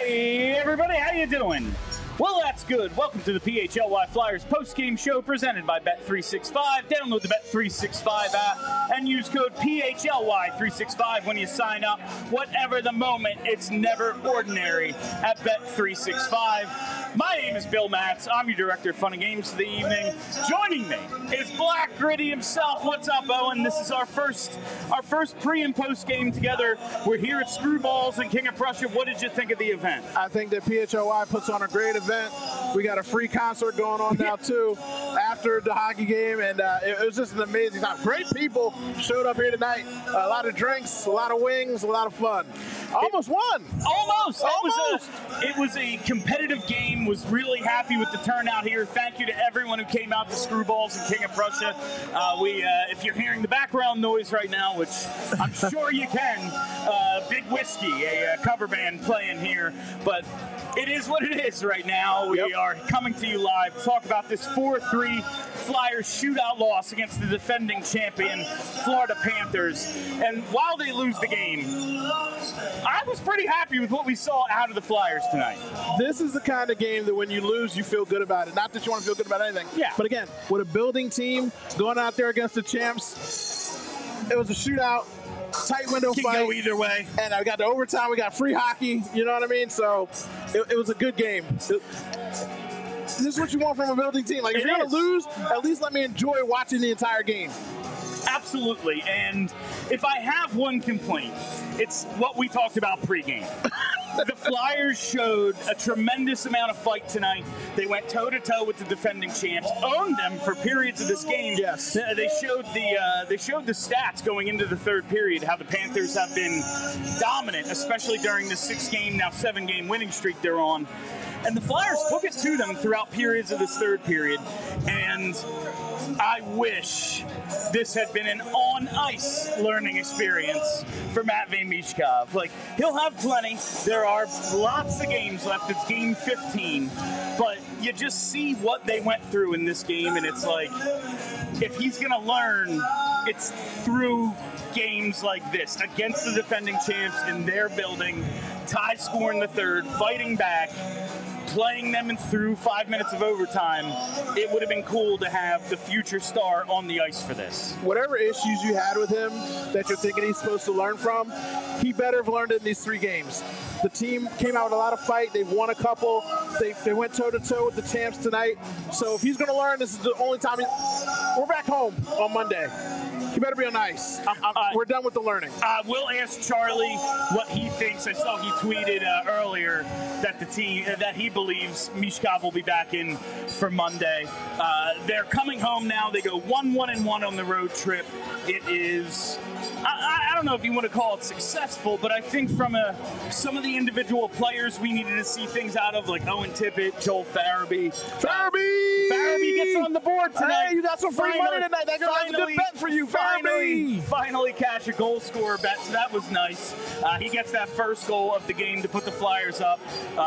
Hey everybody, how you doing? Well, that's good. Welcome to the PHLY Flyers post-game show presented by Bet365. Download the Bet365 app and use code PHLY365 when you sign up. Whatever the moment, it's never ordinary at Bet365. My name is Bill Matz. I'm your director of fun and games for the evening. Joining me is Black Gritty himself. What's up, Owen? This is our first pre and post game together. We're here at Screwballs in King of Prussia. What did you think of the event? I think that PHLY puts on a great event. We got a free concert going on now too after the hockey game, and it was just an amazing time. Great people showed up here tonight. A lot of drinks, a lot of wings, a lot of fun. Almost won. Almost. It was a competitive game. Was really happy with the turnout here. Thank you to everyone who came out to Screwballs in King of Prussia. If you're hearing the background noise right now, which I'm sure you can, Big Whiskey, a cover band playing here, but it is what it is right now. We are coming to you live to talk about this 4-3 Flyers shootout loss against the defending champion Florida Panthers. And while they lose the game, I was pretty happy with what we saw out of the Flyers tonight. This is the kind of game that when you lose, you feel good about it. Not that you want to feel good about anything. Yeah. But again, with a building team going out there against the champs, it was a shootout. Tight window Can fight. go either way. And I got the overtime. We got free hockey. You know what I mean? So it was a good game. This is what you want from a building team. Like, if you're going to lose, at least let me enjoy watching the entire game. Absolutely. And if I have one complaint, it's what we talked about pregame. The Flyers showed a tremendous amount of fight tonight. They went toe-to-toe with the defending champs, owned them for periods of this game. Yes. They showed the stats going into the third period, how the Panthers have been dominant, especially during the 6-game, now 7-game winning streak they're on. And the Flyers took it to them throughout periods of this third period. And I wish this had been an on-ice learning experience for Matvei Michkov. Like, he'll have plenty. There are lots of games left. It's game 15. But you just see what they went through in this game, and it's like, if he's going to learn, it's through games like this, against the defending champs in their building, tie score in the third, fighting back, playing them through 5 minutes of overtime. It would have been cool to have the future star on the ice for this. Whatever issues you had with him that you're thinking he's supposed to learn from, he better have learned it in these 3 games. The team came out with a lot of fight. They've won a couple. They went toe-to-toe with the champs tonight. So if he's going to learn, this is the only time we're back home on Monday. He better be on ice. We're done with the learning. We'll ask Charlie what he thinks. I saw he tweeted earlier that he believes Michkov will be back in for Monday. They're coming home now. They go 1-1-1 on the road trip. It is, I don't know if you want to call it successful, but I think from some of the individual players we needed to see things out of, like Owen Tippett, Joel Farabee. Farabee gets on the board tonight. Hey, you got some free money tonight. That's a good bet for you, Farabee. Finally cash a goal scorer bet, so that was nice. He gets that first goal of the game to put the Flyers up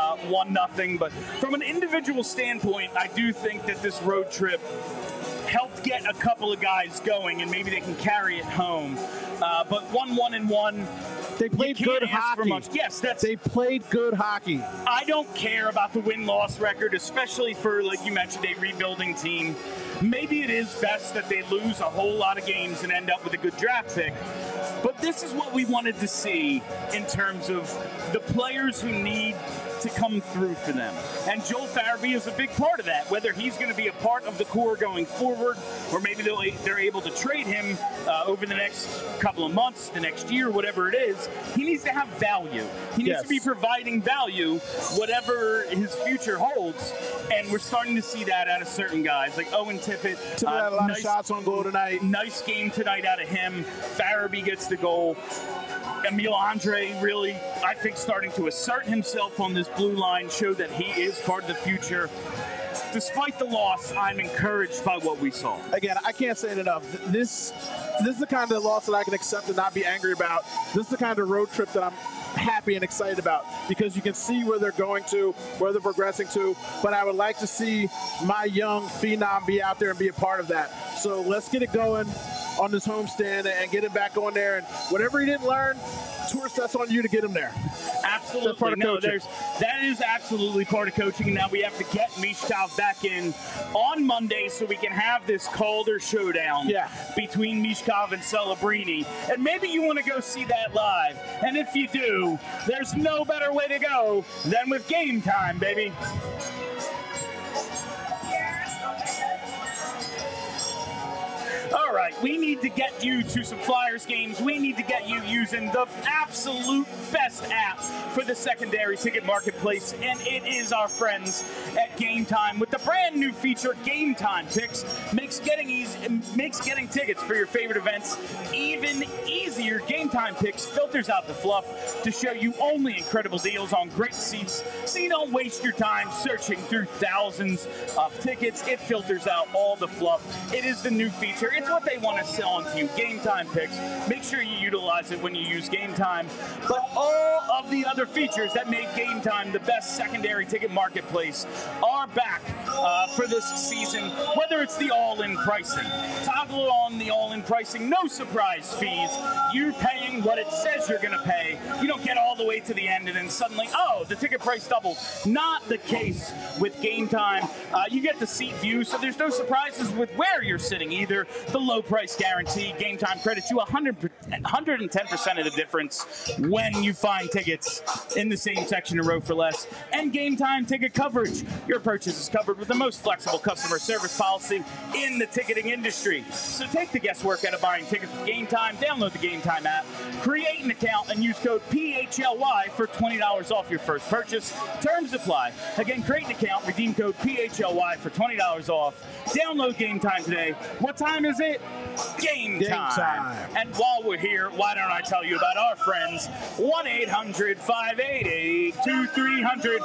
1-0. But from an individual standpoint, I do think that this road trip helped get a couple of guys going, and maybe they can carry it home. But 1-1-1. They played good hockey. Yes, they played good hockey. I don't care about the win-loss record, especially for, like you mentioned, a rebuilding team. Maybe it is best that they lose a whole lot of games and end up with a good draft pick. But this is what we wanted to see in terms of the players who need to come through for them. And Joel Farabee is a big part of that, whether he's going to be a part of the core going forward, or maybe they're able to trade him over the next couple of months, the next year, whatever it is. He needs to have value. He needs to be providing value, whatever his future holds. And we're starting to see that out of certain guys, like Owen Tippett. Had a lot of shots on goal tonight. Nice game tonight out of him. Farabee gets the goal. Emil Andre really, I think, starting to assert himself on this blue line, show that he is part of the future. Despite the loss, I'm encouraged by what we saw. Again, I can't say it enough. This is the kind of loss that I can accept and not be angry about. This is the kind of road trip that I'm happy and excited about, because you can see where they're going to, where they're progressing to. But I would like to see my young phenom be out there and be a part of that. So let's get it going on this homestand and get it back on there. And whatever he didn't learn, Tourist, that's on you to get them there. Absolutely. That's part of coaching. That is absolutely part of coaching. Now we have to get Mishkov back in on Monday so we can have this Calder showdown between Mishkov and Celebrini. And maybe you want to go see that live. And if you do, there's no better way to go than with Game Time, baby. All right, we need to get you to some Flyers games. We need to get you using the absolute best app for the secondary ticket marketplace, and it is our friends at Game Time with the brand new feature, Game Time Picks. Makes getting tickets for your favorite events even easier. Game Time Picks filters out the fluff to show you only incredible deals on great seats, so you don't waste your time searching through thousands of tickets. It filters out all the fluff. It is the new feature. It's what they want to sell onto you. Game Time Picks. Make sure you utilize it when you use Game Time. But all of the other features that make Game Time the best secondary ticket marketplace are back for this season, whether it's the all-in pricing. Toggle on the all-in pricing, no surprise fees. You're paying what it says you're going to pay. You don't get all the way to the end and then suddenly, oh, the ticket price doubled. Not the case with Game Time. You get the seat view, so there's no surprises with where you're sitting either. The low price guarantee. Game Time credits you 110% of the difference when you find tickets in the same section a row for less. And Game Time ticket coverage. Your purchase is covered with the most flexible customer service policy in the ticketing industry. So take the guesswork out of buying tickets with Game Time. Download the Game Time app, create an account, and use code PHLY for $20 off your first purchase. Terms apply. Again, create an account, redeem code PHLY for $20 off. Download Game Time today. What time is it? Game time. And while we're here, why don't I tell you about our friends? 1-800-588-2300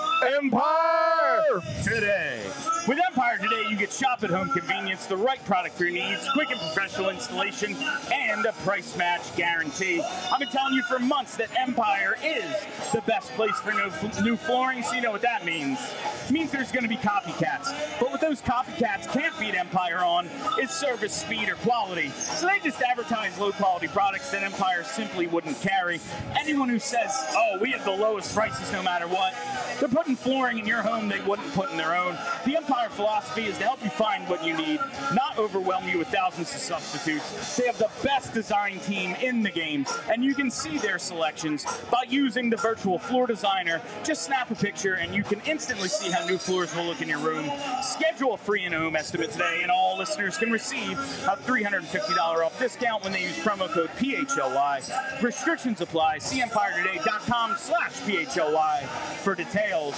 Empire Today. With Empire Today, you get shop at home convenience, the right product for your needs, quick and professional installation, and a price match guarantee. I've been telling you for months that Empire is the best place for new flooring, so you know what that means. It means there's going to be copycats. But what those copycats can't beat Empire on is service, speed, or quality. So they just advertise low-quality products that Empire simply wouldn't carry. Anyone who says, oh, we have the lowest prices no matter what, they're putting flooring in your home they wouldn't put in their own. The Empire philosophy is to help you find what you need, not overwhelm you with thousands of substitutes. They have the best design team in the game, and you can see their selections by using the virtual floor designer. Just snap a picture, and you can instantly see how new floors will look in your room. Schedule a free in-home estimate today, and all listeners can receive a $350 off discount when they use promo code PHLY. Restrictions apply. See EmpireToday.com/PHLY for details.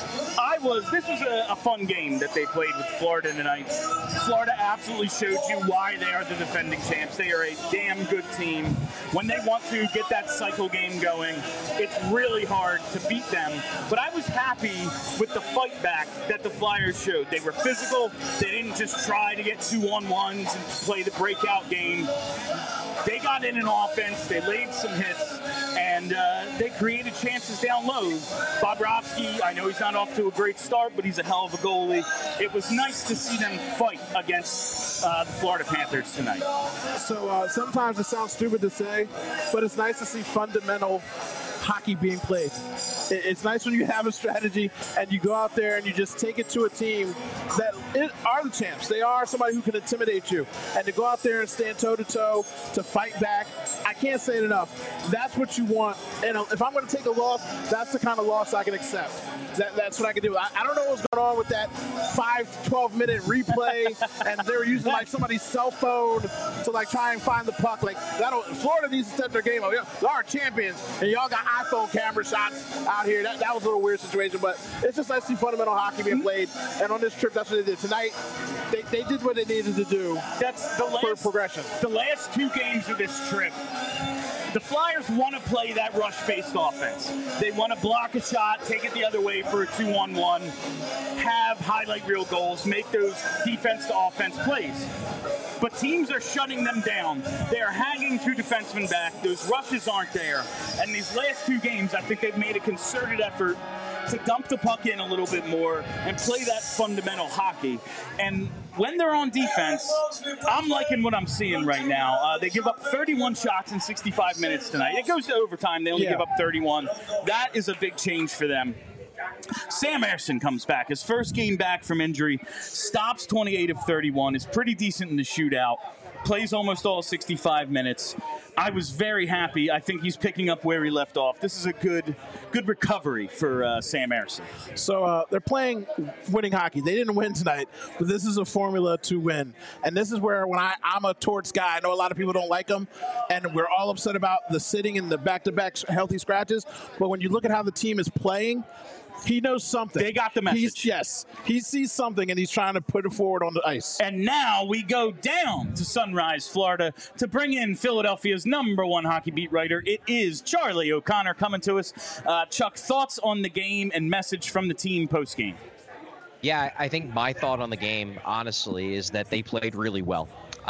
This was a fun game that they played with Florida tonight. Florida absolutely showed you why they are the defending champs. They are a damn good team. When they want to get that cycle game going, it's really hard to beat them. But I was happy with the fight back that the Flyers showed. They were physical. They didn't just try to get 2-on-1s and play the breakout game. They got in an offense, they laid some hits, and they created chances down low. Bobrovsky, I know he's not off to a great start, but he's a hell of a goalie. It was nice to see them fight against the Florida Panthers tonight. So sometimes it sounds stupid to say, but it's nice to see fundamental hockey being played. It's nice when you have a strategy and you go out there and you just take it to a team that are the champs. They are somebody who can intimidate you. And to go out there and stand toe-to-toe, to fight back, I can't say it enough. That's what you want. And if I'm going to take a loss, that's the kind of loss I can accept. That's what I can do. I don't know what's going on with that 12-minute replay, and they were using like somebody's cell phone to like try and find the puck. Like Florida needs to step their game up. Y'all are champions, and y'all got iPhone camera shots out here. That was a little weird situation, but it's just nice to see fundamental hockey being played. And on this trip, that's what they did tonight. They did what they needed to do. That's for progression. The last two games of this trip, the Flyers want to play that rush-based offense. They want to block a shot, take it the other way for a 2-on-1, have highlight reel goals, make those defense-to-offense plays. But teams are shutting them down. They are hanging two defensemen back. Those rushes aren't there. And these last two games, I think they've made a concerted effort to dump the puck in a little bit more and play that fundamental hockey. And when they're on defense, I'm liking what I'm seeing right now. They give up 31 shots in 65 minutes tonight. It goes to overtime. They only give up 31. That is a big change for them. Sam Ersson comes back. His first game back from injury, stops 28 of 31, is pretty decent in the shootout, plays almost all 65 minutes. I was very happy. I think he's picking up where he left off. This is a good recovery for Sam Ersson. So they're playing winning hockey. They didn't win tonight, but this is a formula to win. And this is where when I'm a Torts guy, I know a lot of people don't like him, and we're all upset about the sitting and the back-to-back healthy scratches. But when you look at how the team is playing, he knows something. They got the message. He sees something, and he's trying to put it forward on the ice. And now we go down to Sunrise, Florida, to bring in Philadelphia's #1 hockey beat writer. It is Charlie O'Connor coming to us. Chuck, thoughts on the game and message from the team post-game? Yeah, I think my thought on the game, honestly, is that they played really well.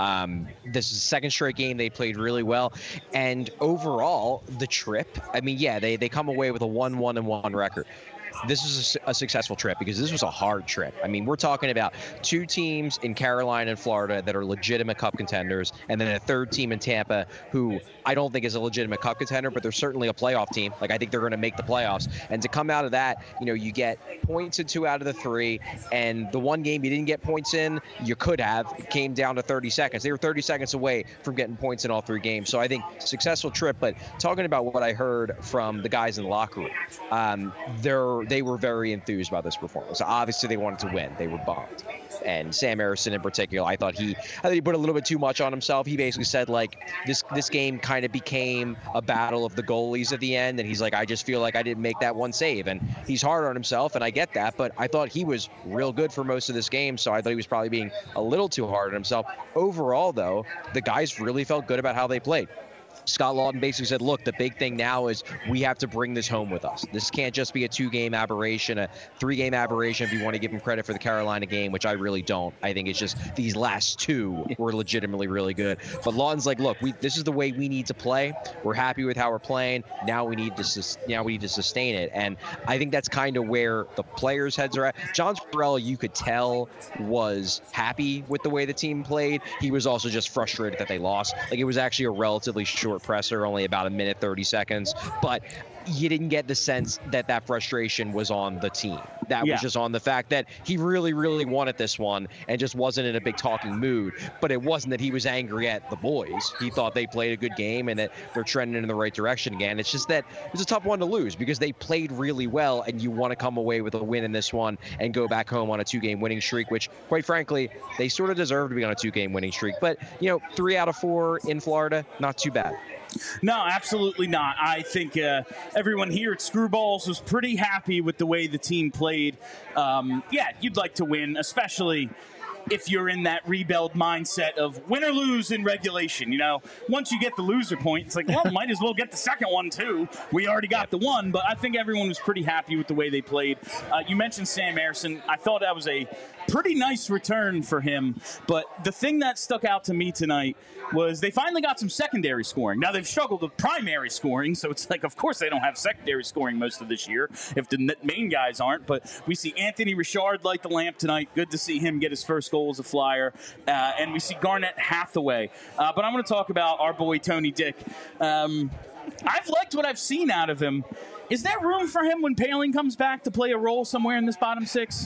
This is the second straight game they played really well. And overall, the trip, I mean, yeah, they come away with a 1-1-1 record. This is a successful trip because this was a hard trip. I mean, we're talking about two teams in Carolina and Florida that are legitimate cup contenders, and then a third team in Tampa who I don't think is a legitimate cup contender, but they're certainly a playoff team. Like, I think they're going to make the playoffs. And to come out of that, you know, you get points in 2 out of the 3, and the one game you didn't get points in, you could have. It came down to 30 seconds. They were 30 seconds away from getting points in all 3 games. So I think successful trip. But talking about what I heard from the guys in the locker room, they were very enthused about this performance. Obviously, they wanted to win. They were bummed. And Sam Ersson in particular, I thought he put a little bit too much on himself. He basically said, like, this game kind of became a battle of the goalies at the end, and he's like, I just feel like I didn't make that one save. And he's hard on himself, and I get that, but I thought he was real good for most of this game, so I thought he was probably being a little too hard on himself. Overall, though, the guys really felt good about how they played. Scott Laughton basically said, look, the big thing now is we have to bring this home with us. This can't just be a 2-game aberration, a 3-game aberration if you want to give him credit for the Carolina game, which I really don't. I think it's just these last 2 were legitimately really good. But Laughton's like, look, this is the way we need to play. We're happy with how we're playing. Now we need to sustain it. And I think that's kind of where the players' heads are at. John Tortorella, you could tell, was happy with the way the team played. He was also just frustrated that they lost. Like, it was actually a relatively short presser, only about 1 minute 30 seconds, but you didn't get the sense that frustration was on the team. That was just on the fact that he really, really wanted this one and just wasn't in a big talking mood. But it wasn't that he was angry at the boys. He thought they played a good game and that they're trending in the right direction again. It's just that it was a tough one to lose because they played really well, and you want to come away with a win in this one and go back home on a 2-game winning streak, which, quite frankly, they sort of deserve to be on a 2-game winning streak. But, 3 out of 4 in Florida, not too bad. No, absolutely not. I think everyone here at Screwballs was pretty happy with the way the team played. You'd like to win, especially if you're in that rebuild mindset of win or lose in regulation. Once you get the loser point, it's like, well, might as well get the second one too. We already got the one, but I think everyone was pretty happy with the way they played. You mentioned Sam Ersson. I thought that was a pretty nice return for him, but the thing that stuck out to me tonight was they finally got some secondary scoring. Now, they've struggled with primary scoring, so it's like, of course they don't have secondary scoring most of this year if the main guys aren't, but we see Anthony Richard light the lamp tonight. Good to see him get his first goal as a Flyer, and we see Garnett Hathaway. But I'm going to talk about our boy Tony Dick. I've liked what I've seen out of him. Is there room for him when Poehling comes back to play a role somewhere in this bottom 6?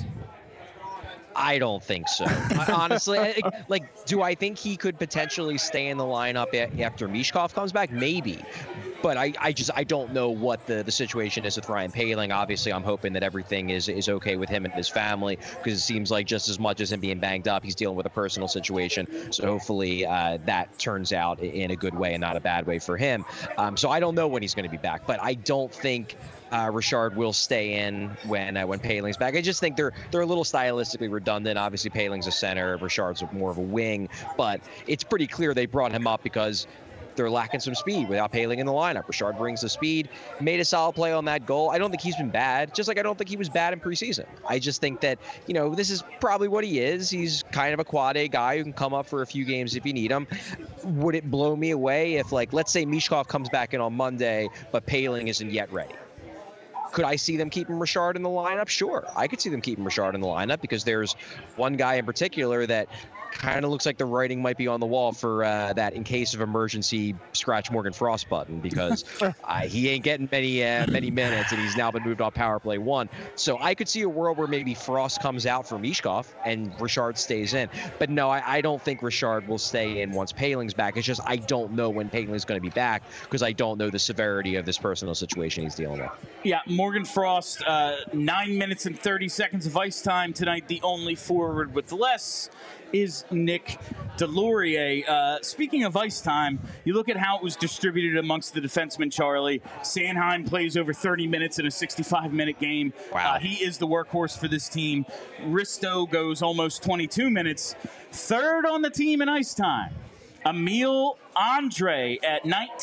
I don't think so. Honestly, do I think he could potentially stay in the lineup after Michkov comes back? Maybe. But I don't know what the situation is with Ryan Poehling. Obviously, I'm hoping that everything is okay with him and his family, because it seems like just as much as him being banged up, he's dealing with a personal situation. So hopefully that turns out in a good way and not a bad way for him. So I don't know when he's going to be back, but I don't think Richard will stay in when Poehling's back. I just think they're a little stylistically redundant. Obviously, Poehling's a center, Richard's more of a wing, but it's pretty clear they brought him up because they're lacking some speed without Poehling in the lineup. Richard brings the speed, made a solid play on that goal. I don't think he's been bad, just like I don't think he was bad in preseason. I just think that, this is probably what he is. He's kind of a quad A guy who can come up for a few games if you need him. Would it blow me away if, let's say Michkov comes back in on Monday, but Poehling isn't yet ready? Could I see them keeping Richard in the lineup? Sure, I could see them keeping Richard in the lineup because there's one guy in particular that kind of looks like the writing might be on the wall for that in case of emergency scratch Morgan Frost button, because he ain't getting many minutes, and he's now been moved off power play 1. So I could see a world where maybe Frost comes out for Michkov and Richard stays in. But no, I don't think Richard will stay in once Paling's back. It's just I don't know when Paling's going to be back because I don't know the severity of this personal situation he's dealing with. Yeah, Morgan Frost, 9 minutes and 30 seconds of ice time tonight. The only forward with less is Nick Delorier. Speaking of ice time, you look at how it was distributed amongst the defensemen, Charlie. Sanheim plays over 30 minutes in a 65-minute game. Wow. He is the workhorse for this team. Risto goes almost 22 minutes. Third on the team in ice time, Emil Andre at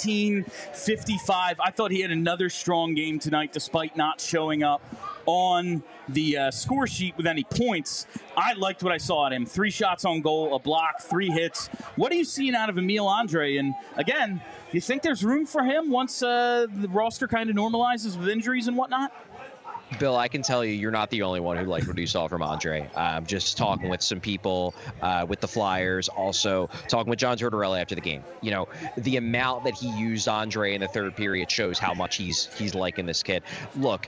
19:55. I thought he had another strong game tonight despite not showing up on the score sheet with any points. I liked what I saw at him. 3 shots on goal, a block, 3 hits. What are you seeing out of Emil Andre? And again, you think there's room for him once the roster kind of normalizes with injuries and whatnot? Bill, I can tell you, you're not the only one who liked what you saw from Andre. Just talking with some people with the Flyers, also talking with John Tortorella after the game. You know, the amount that he used Andre in the third period shows how much he's liking this kid. Look,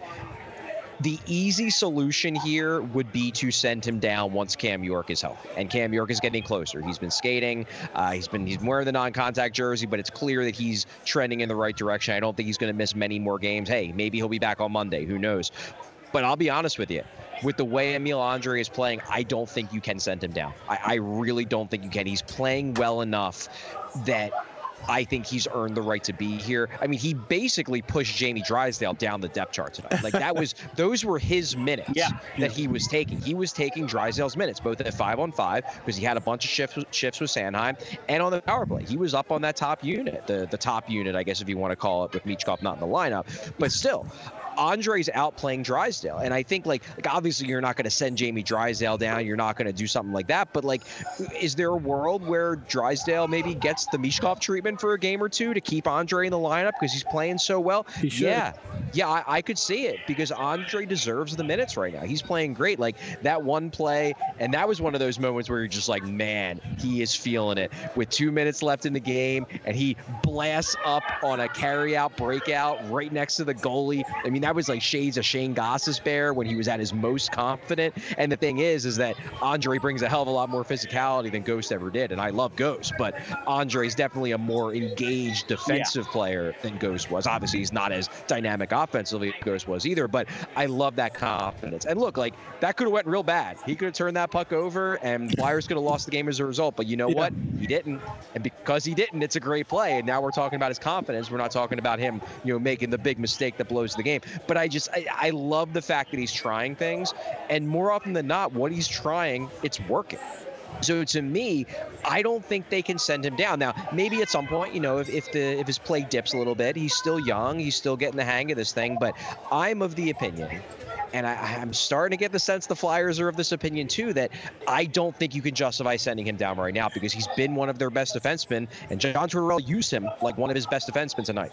the easy solution here would be to send him down once Cam York is healthy, and Cam York is getting closer. He's been skating. He's wearing the non-contact jersey, but it's clear that he's trending in the right direction. I don't think he's going to miss many more games. Hey, maybe he'll be back on Monday. Who knows? But I'll be honest with you. With the way Emil Andre is playing, I don't think you can send him down. I really don't think you can. He's playing well enough that I think he's earned the right to be here. I mean, he basically pushed Jamie Drysdale down the depth chart tonight. Like those were his minutes that he was taking. He was taking Drysdale's minutes, both at 5-on-5, because he had a bunch of shifts with Sanheim, and on the power play. He was up on that top unit, the top unit, I guess, if you want to call it, with Michkov not in the lineup. But still, Andre's outplaying Drysdale. And I think, like obviously you're not going to send Jamie Drysdale down. You're not going to do something like that. But, like, is there a world where Drysdale maybe gets the Michkov treatment for a game or two to keep Andre in the lineup because he's playing so well? He should. Yeah, I could see it because Andre deserves the minutes right now. He's playing great. Like, that one play, and that was one of those moments where you're just like, man, he is feeling it. With 2 minutes left in the game, and he blasts up on a carry-out breakout right next to the goalie. I mean, that was like shades of Shane Gostisbehere when he was at his most confident. And the thing is that Andre brings a hell of a lot more physicality than Ghost ever did. And I love Ghost, but Andre's definitely a more engaged defensive player than Ghost was. Obviously, he's not as dynamic offensively as Ghost was either, but I love that confidence. And look, like, that could have went real bad. He could have turned that puck over, and Flyers could have lost the game as a result. But you know what? He didn't. And because he didn't, it's a great play. And now we're talking about his confidence. We're not talking about him, making the big mistake that blows the game. But I love the fact that he's trying things, and more often than not, what he's trying, it's working. So to me, I don't think they can send him down. Now, maybe at some point, if his play dips a little bit, he's still young, he's still getting the hang of this thing. But I'm of the opinion, and I'm starting to get the sense the Flyers are of this opinion too, that I don't think you can justify sending him down right now because he's been one of their best defensemen, and John Tortorella used him like one of his best defensemen tonight.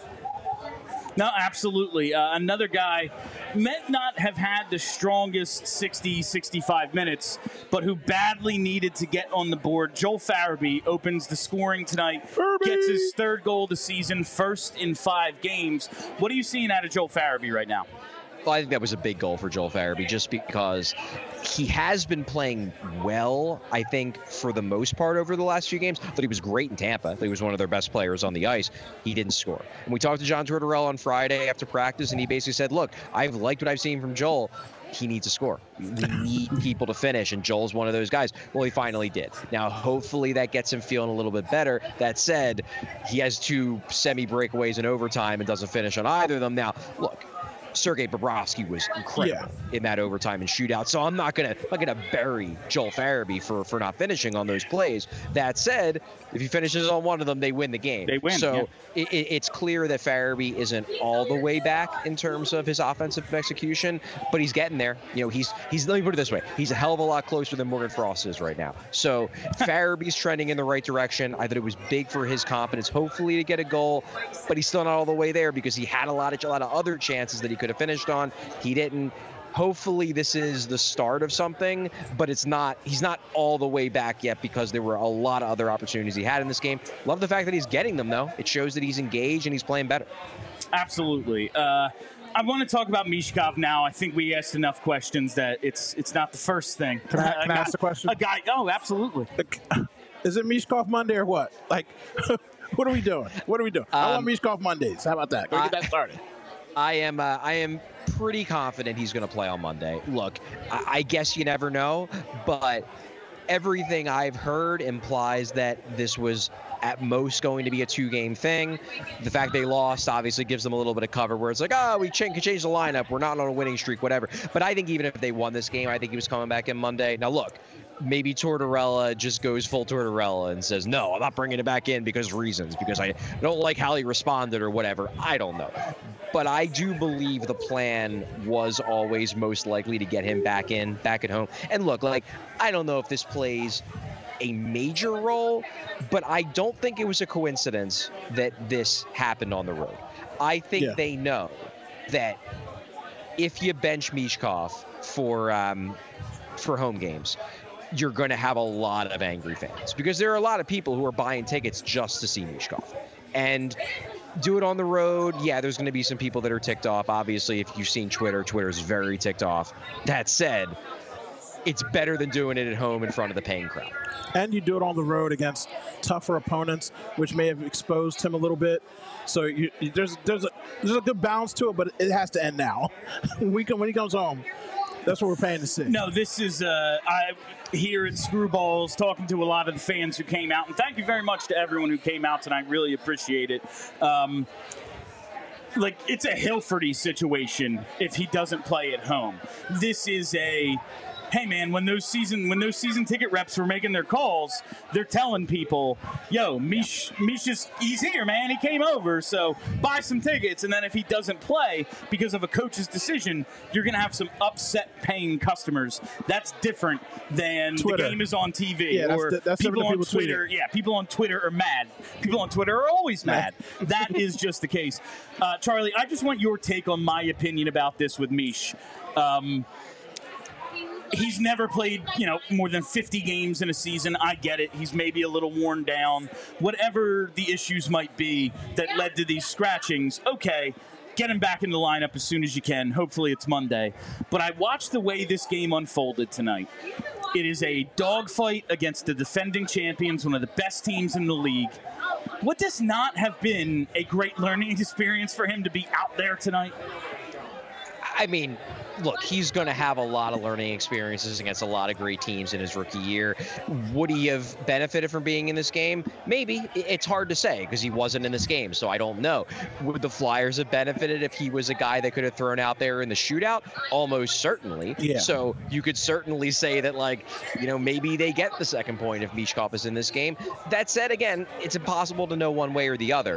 No, absolutely. Another guy might not have had the strongest 60, 65 minutes, but who badly needed to get on the board. Joel Farabee opens the scoring tonight, gets his 3rd goal of the season, first in 5 games. What are you seeing out of Joel Farabee right now? Well, I think that was a big goal for Joel Farabee just because he has been playing well, I think, for the most part over the last few games. I thought he was great in Tampa. I thought he was one of their best players on the ice. He didn't score. And we talked to John Tortorella on Friday after practice, and he basically said, look, I've liked what I've seen from Joel. He needs to score. We need people to finish, and Joel's one of those guys. Well, he finally did. Now, hopefully that gets him feeling a little bit better. That said, he has 2 semi-breakaways in overtime and doesn't finish on either of them. Now, look, Sergei Bobrovsky was incredible in that overtime and shootout. So I'm not gonna bury Joel Farabee for not finishing on those plays. That said, if he finishes on one of them, they win the game. They win. So it's clear that Farabee isn't all the way back in terms of his offensive execution, but he's getting there. He's let me put it this way: he's a hell of a lot closer than Morgan Frost is right now. So Farabee's trending in the right direction. I thought it was big for his confidence, hopefully, to get a goal, but he's still not all the way there because he had a lot of other chances that he could have finished on. He didn't. Hopefully this is the start of something, but he's not all the way back yet because there were a lot of other opportunities he had in this game. Love the fact that he's getting them, though. It shows that he's engaged and he's playing better. Absolutely. I want to talk about Michkov now. I think we asked enough questions that it's not the first thing. Can I ask a question? Oh, absolutely. Is it Michkov Monday or what? Like, what are we doing? I want Michkov Mondays. How about that? Go get that started. I am pretty confident he's going to play on Monday. Look, I guess you never know, but everything I've heard implies that this was at most going to be a 2-game thing. The fact they lost obviously gives them a little bit of cover where it's like, we can change the lineup. We're not on a winning streak, whatever. But I think even if they won this game, I think he was coming back in Monday. Now, look, maybe Tortorella just goes full Tortorella and says, no, I'm not bringing it back in because reasons, because I don't like how he responded or whatever. I don't know. But I do believe the plan was always most likely to get him back at home. And look, like, I don't know if this plays a major role, but I don't think it was a coincidence that this happened on the road. I think they know that if you bench Michkov for home games, you're going to have a lot of angry fans because there are a lot of people who are buying tickets just to see Michkov. And do it on the road, there's going to be some people that are ticked off. Obviously, if you've seen Twitter's very ticked off. That said, it's better than doing it at home in front of the paying crowd. And you do it on the road against tougher opponents, which may have exposed him a little bit. So there's a good balance to it, but it has to end now. When he comes home, that's what we're paying to see. No, this is here at Screwballs, talking to a lot of the fans who came out. And thank you very much to everyone who came out tonight. Really appreciate it. It's a Hilferty situation if he doesn't play at home. This is hey man, when those season ticket reps were making their calls, they're telling people, yo, he's here, man. He came over, so buy some tickets. And then if he doesn't play because of a coach's decision, you're going to have some upset paying customers. That's different than Twitter. The game is on TV. Yeah, or that's people on people Twitter. tweeting. Yeah, people on Twitter are mad. People on Twitter are always mad. That is just the case. Charlie, I just want your take on my opinion about this with Mish. He's never played, more than 50 games in a season. I get it. He's maybe a little worn down. Whatever the issues might be that led to these scratchings, okay, get him back in the lineup as soon as you can. Hopefully it's Monday. But I watched the way this game unfolded tonight. It is a dogfight against the defending champions, one of the best teams in the league. Would this not have been a great learning experience for him to be out there tonight? I mean, look, he's going to have a lot of learning experiences against a lot of great teams in his rookie year. Would he have benefited from being in this game? Maybe. It's hard to say because he wasn't in this game, so I don't know. Would the Flyers have benefited if he was a guy that could have thrown out there in the shootout? Almost certainly. Yeah. So you could certainly say that, maybe they get the second point if Michkov is in this game. That said, again, it's impossible to know one way or the other.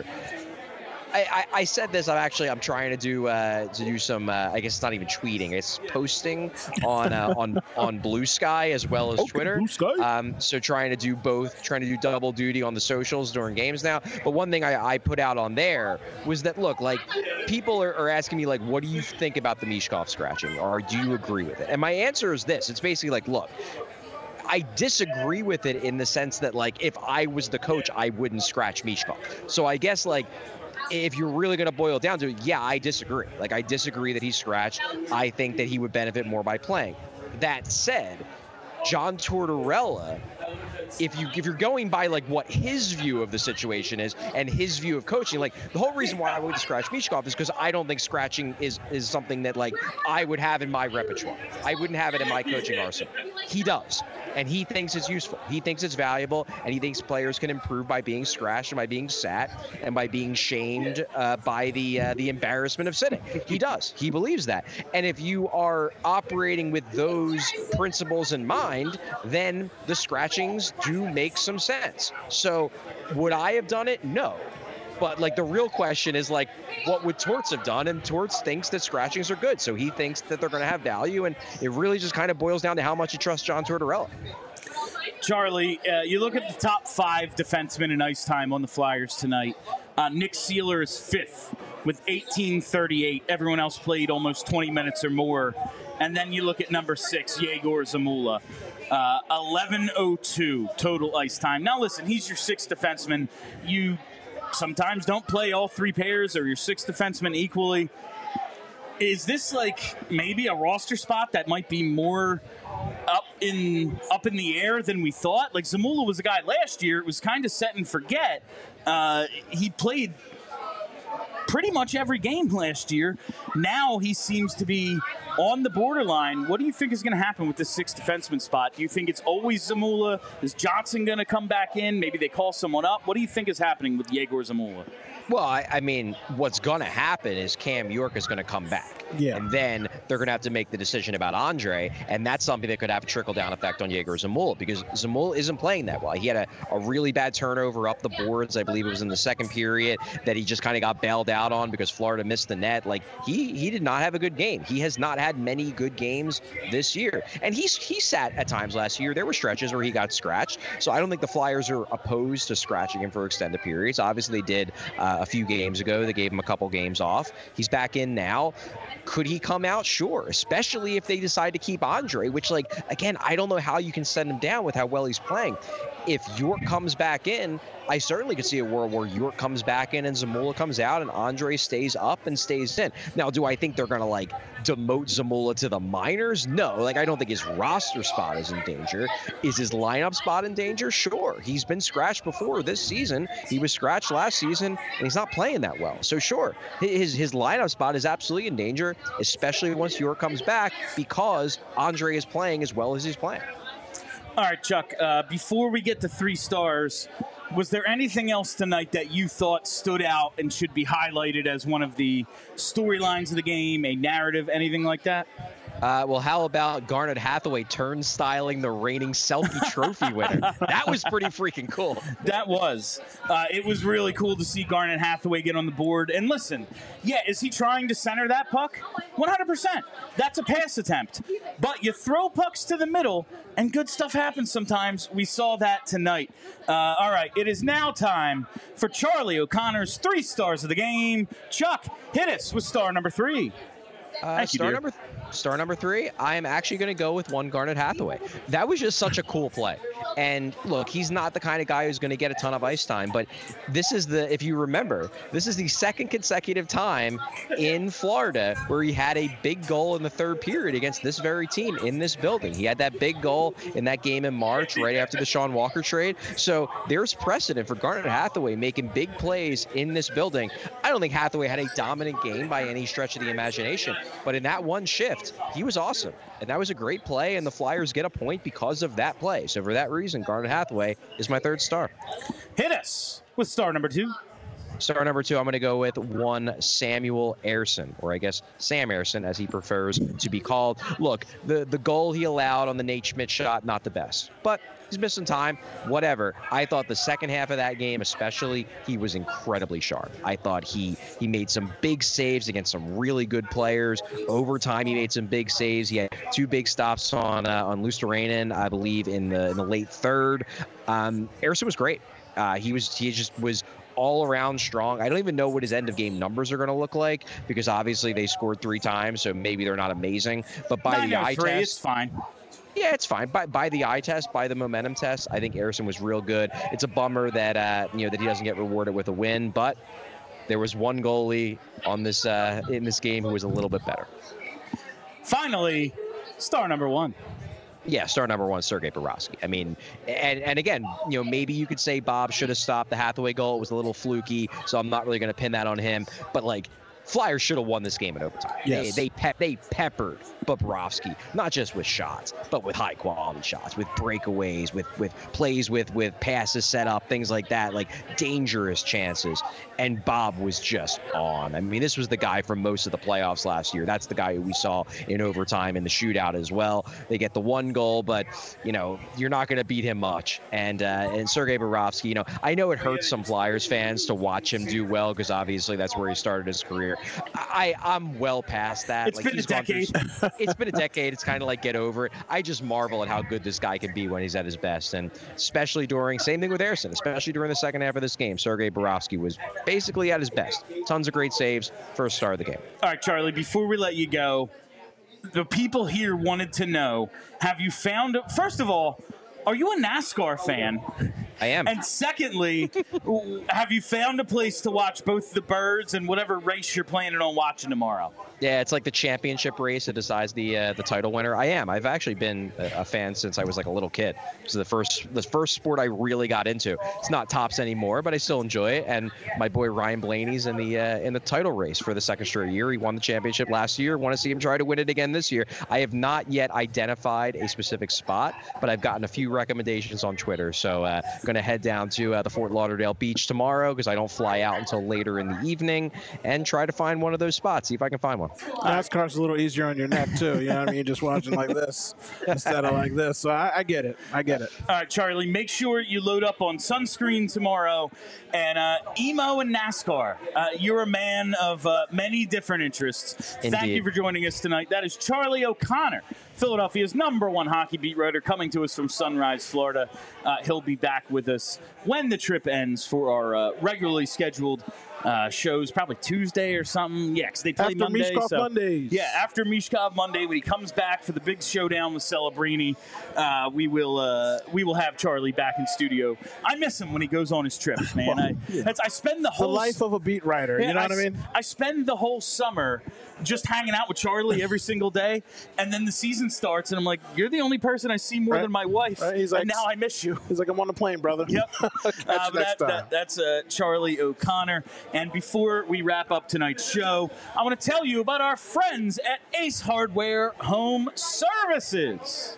I said this. I'm trying to do some. I guess it's not even tweeting. It's posting on Blue Sky as well as Twitter. Blue Sky. So trying to do both. Trying to do double duty on the socials during games now. But one thing I put out on there was that people are asking me what do you think about the Michkov scratching, or do you agree with it? And my answer is this. It's basically look. I disagree with it in the sense that if I was the coach, I wouldn't scratch Michkov. So I guess if you're really going to boil it down to it, I disagree. I disagree that he's scratched. I think that he would benefit more by playing. That said, John Tortorella, if you're going by what his view of the situation is and his view of coaching, the whole reason why I wouldn't scratch Michkov is because I don't think scratching is something that I would have in my repertoire. I wouldn't have it in my coaching arsenal. He does. And he thinks it's useful. He thinks it's valuable, and he thinks players can improve by being scratched and by being sat and by being shamed by the embarrassment of sitting. He does. He believes that. And if you are operating with those principles in mind, then the scratchings do make some sense. So would I have done it? No. But the real question is what would Torts have done? And Torts thinks that scratchings are good. So he thinks that they're going to have value. And it really just kind of boils down to how much you trust John Tortorella. Charlie, you look at the top 5 defensemen in ice time on the Flyers tonight. Nick Seeler is 5th with 18:38. Everyone else played almost 20 minutes or more. And then you look at number 6, Yegor Zamula. 11:02 total ice time. Now listen, he's your 6th defenseman. You sometimes don't play all 3 pairs or your 6th defenseman equally. Is this like maybe a roster spot that might be more up in the air than we thought? Like Zamula was a guy last year, it was kind of set and forget. He played pretty much every game last year. Now he seems to be on the borderline. What do you think is going to happen with this 6th defenseman spot? Do you think it's always Zamula? Is Johnson going to come back in? Maybe they call someone up. What do you think is happening with Yegor Zamula? Well, I mean, what's going to happen is Cam York is going to come back. Yeah. And then they're going to have to make the decision about Andre, and that's something that could have a trickle-down effect on Yegor Zamula, because Zamula isn't playing that well. He had a really bad turnover up the boards. I believe it was in the second period that he just kind of got bailed out on because Florida missed the net. Like, he did not have a good game. He has not had many good games this year. And he sat at times last year. There were stretches where he got scratched. So I don't think the Flyers are opposed to scratching him for extended periods. Obviously, they did a few games ago. They gave him a couple games off. He's back in now. Could he come out? Sure, especially if they decide to keep Andre, which, like, again, I don't know how you can send him down with how well he's playing. If York comes back in, I certainly could see a world where York comes back in and Zamula comes out and Andre stays up and stays in. Now, do I think they're going to, like, demote Zamula to the minors? No. Like, I don't think his roster spot is in danger. Is his lineup spot in danger? Sure. He's been scratched before this season. He was scratched last season, and he's not playing that well. So, sure, his lineup spot is absolutely in danger, especially once York comes back, because Andre is playing as well as he's playing. All right, Chuck, before we get to 3 stars, was there anything else tonight that you thought stood out and should be highlighted as one of the storylines of the game, a narrative, anything like that? Well, how about Garnet Hathaway turnstiling the reigning Selke Trophy winner? That was pretty freaking cool. That was. It was really cool to see Garnet Hathaway get on the board. And listen, yeah, is he trying to center that puck? 100%. That's a pass attempt. But you throw pucks to the middle, and good stuff happens sometimes. We saw that tonight. All right, it is now time for Charlie O'Connor's 3 stars of the game. Chuck, hit us with star number 3. Star number 3, I am actually going to go with one Garnet Hathaway. That was just such a cool play. And look, he's not the kind of guy who's going to get a ton of ice time, but this is if you remember, this is the 2nd consecutive time in Florida where he had a big goal in the 3rd period against this very team in this building. He had that big goal in that game in March, right after the Sean Walker trade. So there's precedent for Garnet Hathaway making big plays in this building. I don't think Hathaway had a dominant game by any stretch of the imagination, but in that one shift, he was awesome. And that was a great play, and the Flyers get a point because of that play. So for that reason, Garnet Hathaway is my 3rd star. Hit us with star number 2. Star number 2, I'm going to go with one Samuel Ersson, or I guess Sam Ersson, as he prefers to be called. Look, the goal he allowed on the Nate Schmidt shot, not the best, but he's missing time, whatever. I thought the second half of that game especially, he was incredibly sharp. I thought he made some big saves against some really good players. Over time, he made some big saves. He had 2 big stops on Luosterainen, I believe, in the late 3rd. Ersson was great. He just was all around strong. I don't even know what his end of game numbers are going to look like, because obviously they scored 3 times, so maybe they're not amazing. But by the eye test, it's fine. Yeah, it's fine. By the eye test, by the momentum test, I think Ersson was real good. It's a bummer that that he doesn't get rewarded with a win, but there was one goalie on this in this game who was a little bit better. Finally, star number 1. Yeah, star number 1, Sergei Bobrovsky. I mean, and again, maybe you could say Bob should have stopped the Hathaway goal. It was a little fluky, so I'm not really going to pin that on him. But, like, Flyers should have won this game in overtime. Yes. They peppered Bobrovsky, not just with shots, but with high-quality shots, with breakaways, with plays, with passes set up, things like that, like dangerous chances. And Bob was just on. I mean, this was the guy from most of the playoffs last year. That's the guy who we saw in overtime in the shootout as well. They get the 1 goal, but, you're not going to beat him much. And Sergei Bobrovsky, I know it hurts some Flyers fans to watch him do well, because obviously that's where he started his career. year. I'm well past that. It's been a decade. It's been a decade. It's kind of like get over it. I just marvel at how good this guy can be when he's at his best, and especially same thing with Harrison, especially during the second half of this game. Sergei Bobrovsky was basically at his best. Tons of great saves, first star of the game. All right, Charlie, before we let you go, the people here wanted to know, have you found, first of all, are you a NASCAR fan? I am. And secondly, have you found a place to watch both the birds and whatever race you're planning on watching tomorrow? Yeah, it's like the championship race that decides the title winner. I am. I've actually been a fan since I was like a little kid. So the first sport I really got into. It's not tops anymore, but I still enjoy it. And my boy Ryan Blaney's in the title race for the second straight year. He won the championship last year. Want to see him try to win it again this year. I have not yet identified a specific spot, but I've gotten a few recommendations on Twitter. So I'm going to head down to the Fort Lauderdale beach tomorrow because I don't fly out until later in the evening, and try to find one of those spots. See if I can find one. NASCAR's a little easier on your neck too. You know what I mean? Just watching like this instead of like this. So I get it. I get it. All right, Charlie, make sure you load up on sunscreen tomorrow. And emo and NASCAR, you're a man of many different interests. Indeed. Thank you for joining us tonight. That is Charlie O'Connor, Philadelphia's #1 hockey beat writer, coming to us from Sunrise, Florida. He'll be back with us when the trip ends for our regularly scheduled shows, probably Tuesday or something. Yeah, because they play after Monday. Mishkov Mondays. Yeah, after Mishkov Monday, when he comes back for the big showdown with Celebrini, we will have Charlie back in studio. I miss him when he goes on his trips, man. I spend the whole life of a beat writer. You know what I mean? I spend the whole summer just hanging out with Charlie every single day, and then the season starts, and I'm like, you're the only person I see more than my wife, He's like, and now I miss you. He's like, I'm on the plane, brother. Yep. Next time. That's Charlie O'Connor. And before we wrap up tonight's show, I want to tell you about our friends at Ace Hardware Home Services.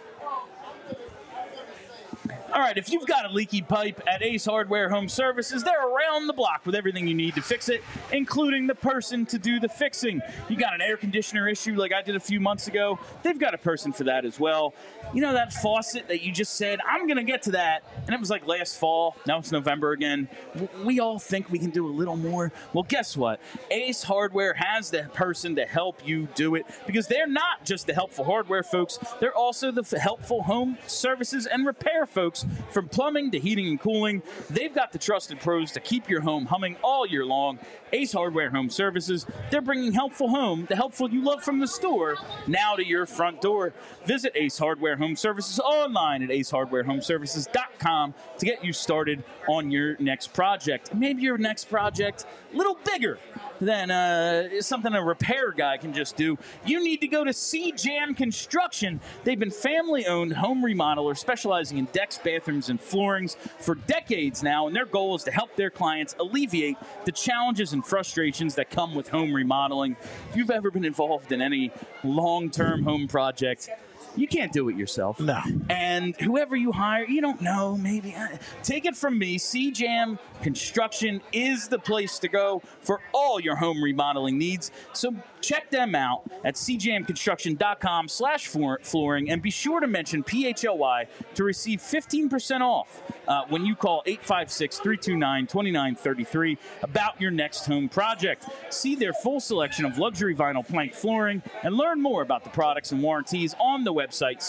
All right, if you've got a leaky pipe at Ace Hardware Home Services, they're around the block with everything you need to fix it, including the person to do the fixing. You got an air conditioner issue like I did a few months ago, they've got a person for that as well. You know that faucet that you just said, I'm going to get to that, and it was like last fall, now it's November again. We all think we can do a little more. Well, guess what? Ace Hardware has the person to help you do it, because they're not just the helpful hardware folks, they're also the helpful home services and repair folks. From plumbing to heating and cooling, they've got the trusted pros to keep your home humming all year long. Ace Hardware Home Services, they're bringing helpful home, the helpful you love from the store, now to your front door. Visit Ace Hardware Home Services online at aceHardwareHomeservices.com to get you started on your next project. Maybe your next project a little bigger than something a repair guy can just do. You need to go to C-Jam Construction. They've been family-owned home remodeler specializing in decks, bathrooms, and floorings for decades now, and their goal is to help their clients alleviate the challenges and frustrations that come with home remodeling. If you've ever been involved in any long-term home project, you can't do it yourself. No. And whoever you hire, you don't know, maybe. Take it from me, C-Jam Construction is the place to go for all your home remodeling needs. So check them out at cjamconstruction.com/flooring, and be sure to mention PHLY to receive 15% off when you call 856-329-2933 about your next home project. See their full selection of luxury vinyl plank flooring and learn more about the products and warranties on the website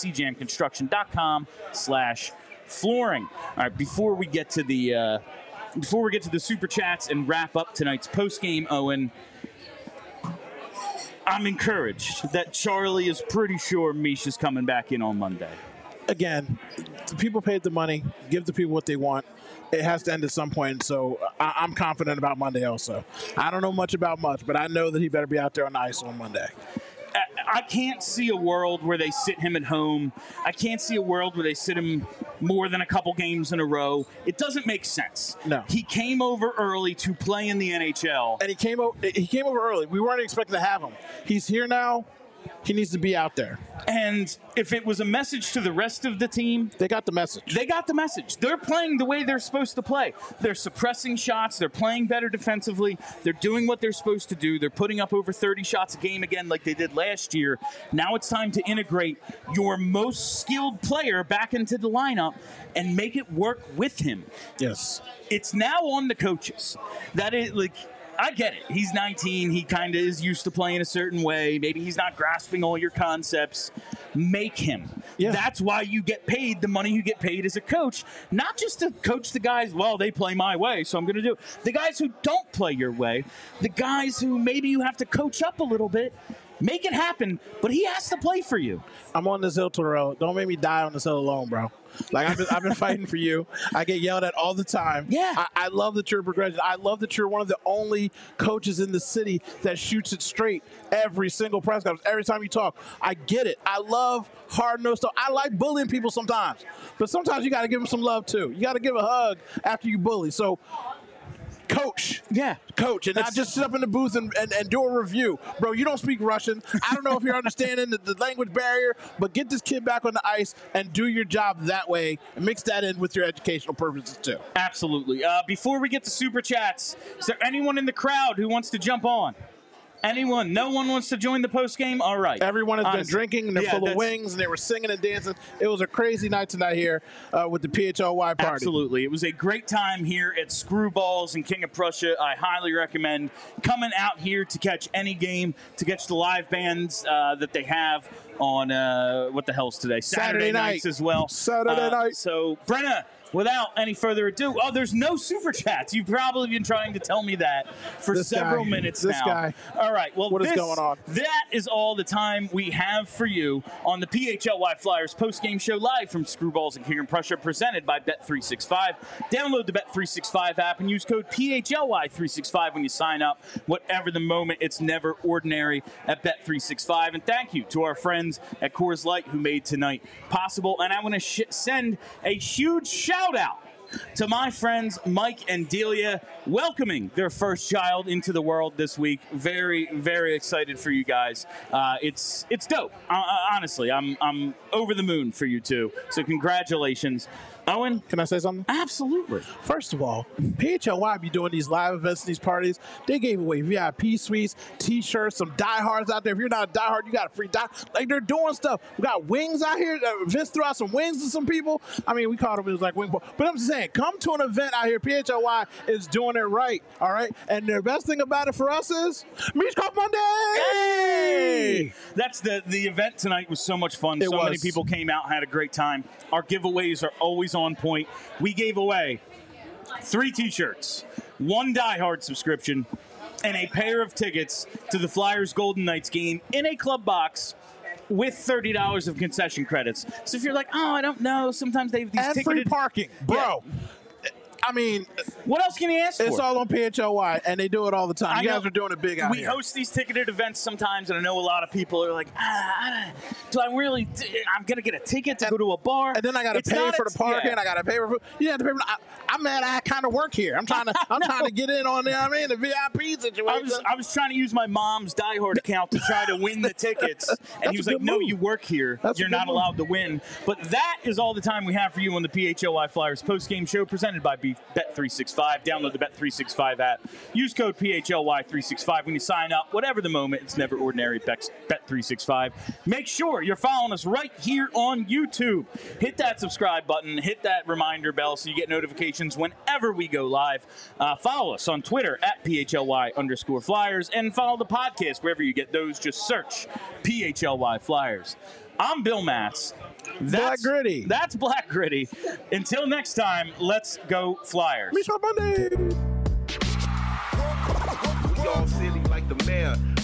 cjamconstruction.com/flooring. All right, before we get to the super chats and wrap up tonight's post-game, Owen, I'm encouraged that Charlie is pretty sure Misha's coming back in on Monday. Again, the people paid the money. Give the people what they want. It has to end at some point, so I'm confident about Monday also. I don't know much about much, but I know that he better be out there on the ice on Monday. I can't see a world where they sit him at home. I can't see a world where they sit him more than a couple games in a row. It doesn't make sense. No. He came over early to play in the NHL. And he came over early. We weren't expecting to have him. He's here now. He needs to be out there. And if it was a message to the rest of the team, they got the message. They got the message. They're playing the way they're supposed to play. They're suppressing shots. They're playing better defensively. They're doing what they're supposed to do. They're putting up over 30 shots a game again like they did last year. Now it's time to integrate your most skilled player back into the lineup and make it work with him. Yes. It's now on the coaches. That is, like, I get it. He's 19. He kind of is used to playing a certain way. Maybe he's not grasping all your concepts. Make him. Yeah. That's why you get paid the money you get paid as a coach, not just to coach the guys, well, they play my way, so I'm going to do it. The guys who don't play your way, the guys who maybe you have to coach up a little bit, make it happen, but he has to play for you. I'm on this hill to the road. Don't make me die on this hill alone, bro. Like, I've been fighting for you. I get yelled at all the time. Yeah. I love that you're progressive. I love that you're one of the only coaches in the city that shoots it straight every single press conference, every time you talk. I get it. I love hard-nosed stuff. I like bullying people sometimes, but sometimes you got to give them some love, too. You got to give a hug after you bully. So, coach. Yeah. Coach. And not just sit up in the booth and do a review. Bro, you don't speak Russian. I don't know if you're understanding the language barrier, but get this kid back on the ice and do your job that way and mix that in with your educational purposes, too. Absolutely. Before we get to Super Chats, is there anyone in the crowd who wants to jump on? Anyone? No one wants to join the post game? All right. Everyone has been drinking, and they're full of wings, and they were singing and dancing. It was a crazy night tonight here with the PHLY party. Absolutely. It was a great time here at Screwballs in King of Prussia. I highly recommend coming out here to catch any game, to catch the live bands that they have on, what the hell's today? Saturday nights as well. Saturday night. So, Brenna, without any further ado, there's no Super Chats. You've probably been trying to tell me that for several minutes now. This guy. All right. Well, what is going on? That is all the time we have for you on the PHLY Flyers postgame show live from Screwballs in King of Prussia, presented by Bet365. Download the Bet365 app and use code PHLY365 when you sign up. Whatever the moment, it's never ordinary at Bet365. And thank you to our friends at Coors Light who made tonight possible. And I want to send a huge shout out to my friends Mike and Delia, welcoming their first child into the world this week. Very, very excited for you guys. It's dope. Honestly, I'm over the moon for you two. So congratulations. Owen? Can I say something? Absolutely. First of all, PHLY be doing these live events and these parties. They gave away VIP suites, T-shirts, some diehards out there. If you're not a diehard, you got a free die. Like, they're doing stuff. We got wings out here. Vince threw out some wings to some people. I mean, we called them, it was like wing ball. But I'm just saying, come to an event out here. PHLY is doing it right, all right? And the best thing about it for us is Meech Cough Monday! Hey! That's the event tonight was so much fun. So many people came out, had a great time. Our giveaways are always on point. We gave away 3 T-shirts, 1 Die Hard subscription, and a pair of tickets to the Flyers Golden Knights game in a club box with $30 of concession credits. So if you're like, oh, I don't know, sometimes they have these ticketed... free parking, bro. Yeah. I mean, what else can you ask for? It's all on PHLY, and they do it all the time. You guys are doing it big out here. We host these ticketed events sometimes, and I know a lot of people are like, do I really? I'm going to get a ticket to go to a bar. And then I got to pay for the parking. I got to pay for food. You have to pay for I'm mad I kind of work here. I'm trying to get in on the VIP situation. I was trying to use my mom's Die Hard account to try to win the tickets. And he was like, no, you work here. You're not allowed to win. But that is all the time we have for you on the PHLY Flyers postgame show presented by Bet365. Download the Bet365 app. Use code PHLY365 when you sign up. Whatever the moment, it's never ordinary. Bet365. Make sure you're following us right here on YouTube. Hit that subscribe button. Hit that reminder bell so you get notifications whenever we go live. Follow us on Twitter at PHLY_Flyers and follow the podcast wherever you get those. Just search PHLY Flyers. I'm Bill Matz. Black Gritty. That's Black Gritty. Until next time, let's go Flyers. Meech Cough Monday. We all silly like the mayor.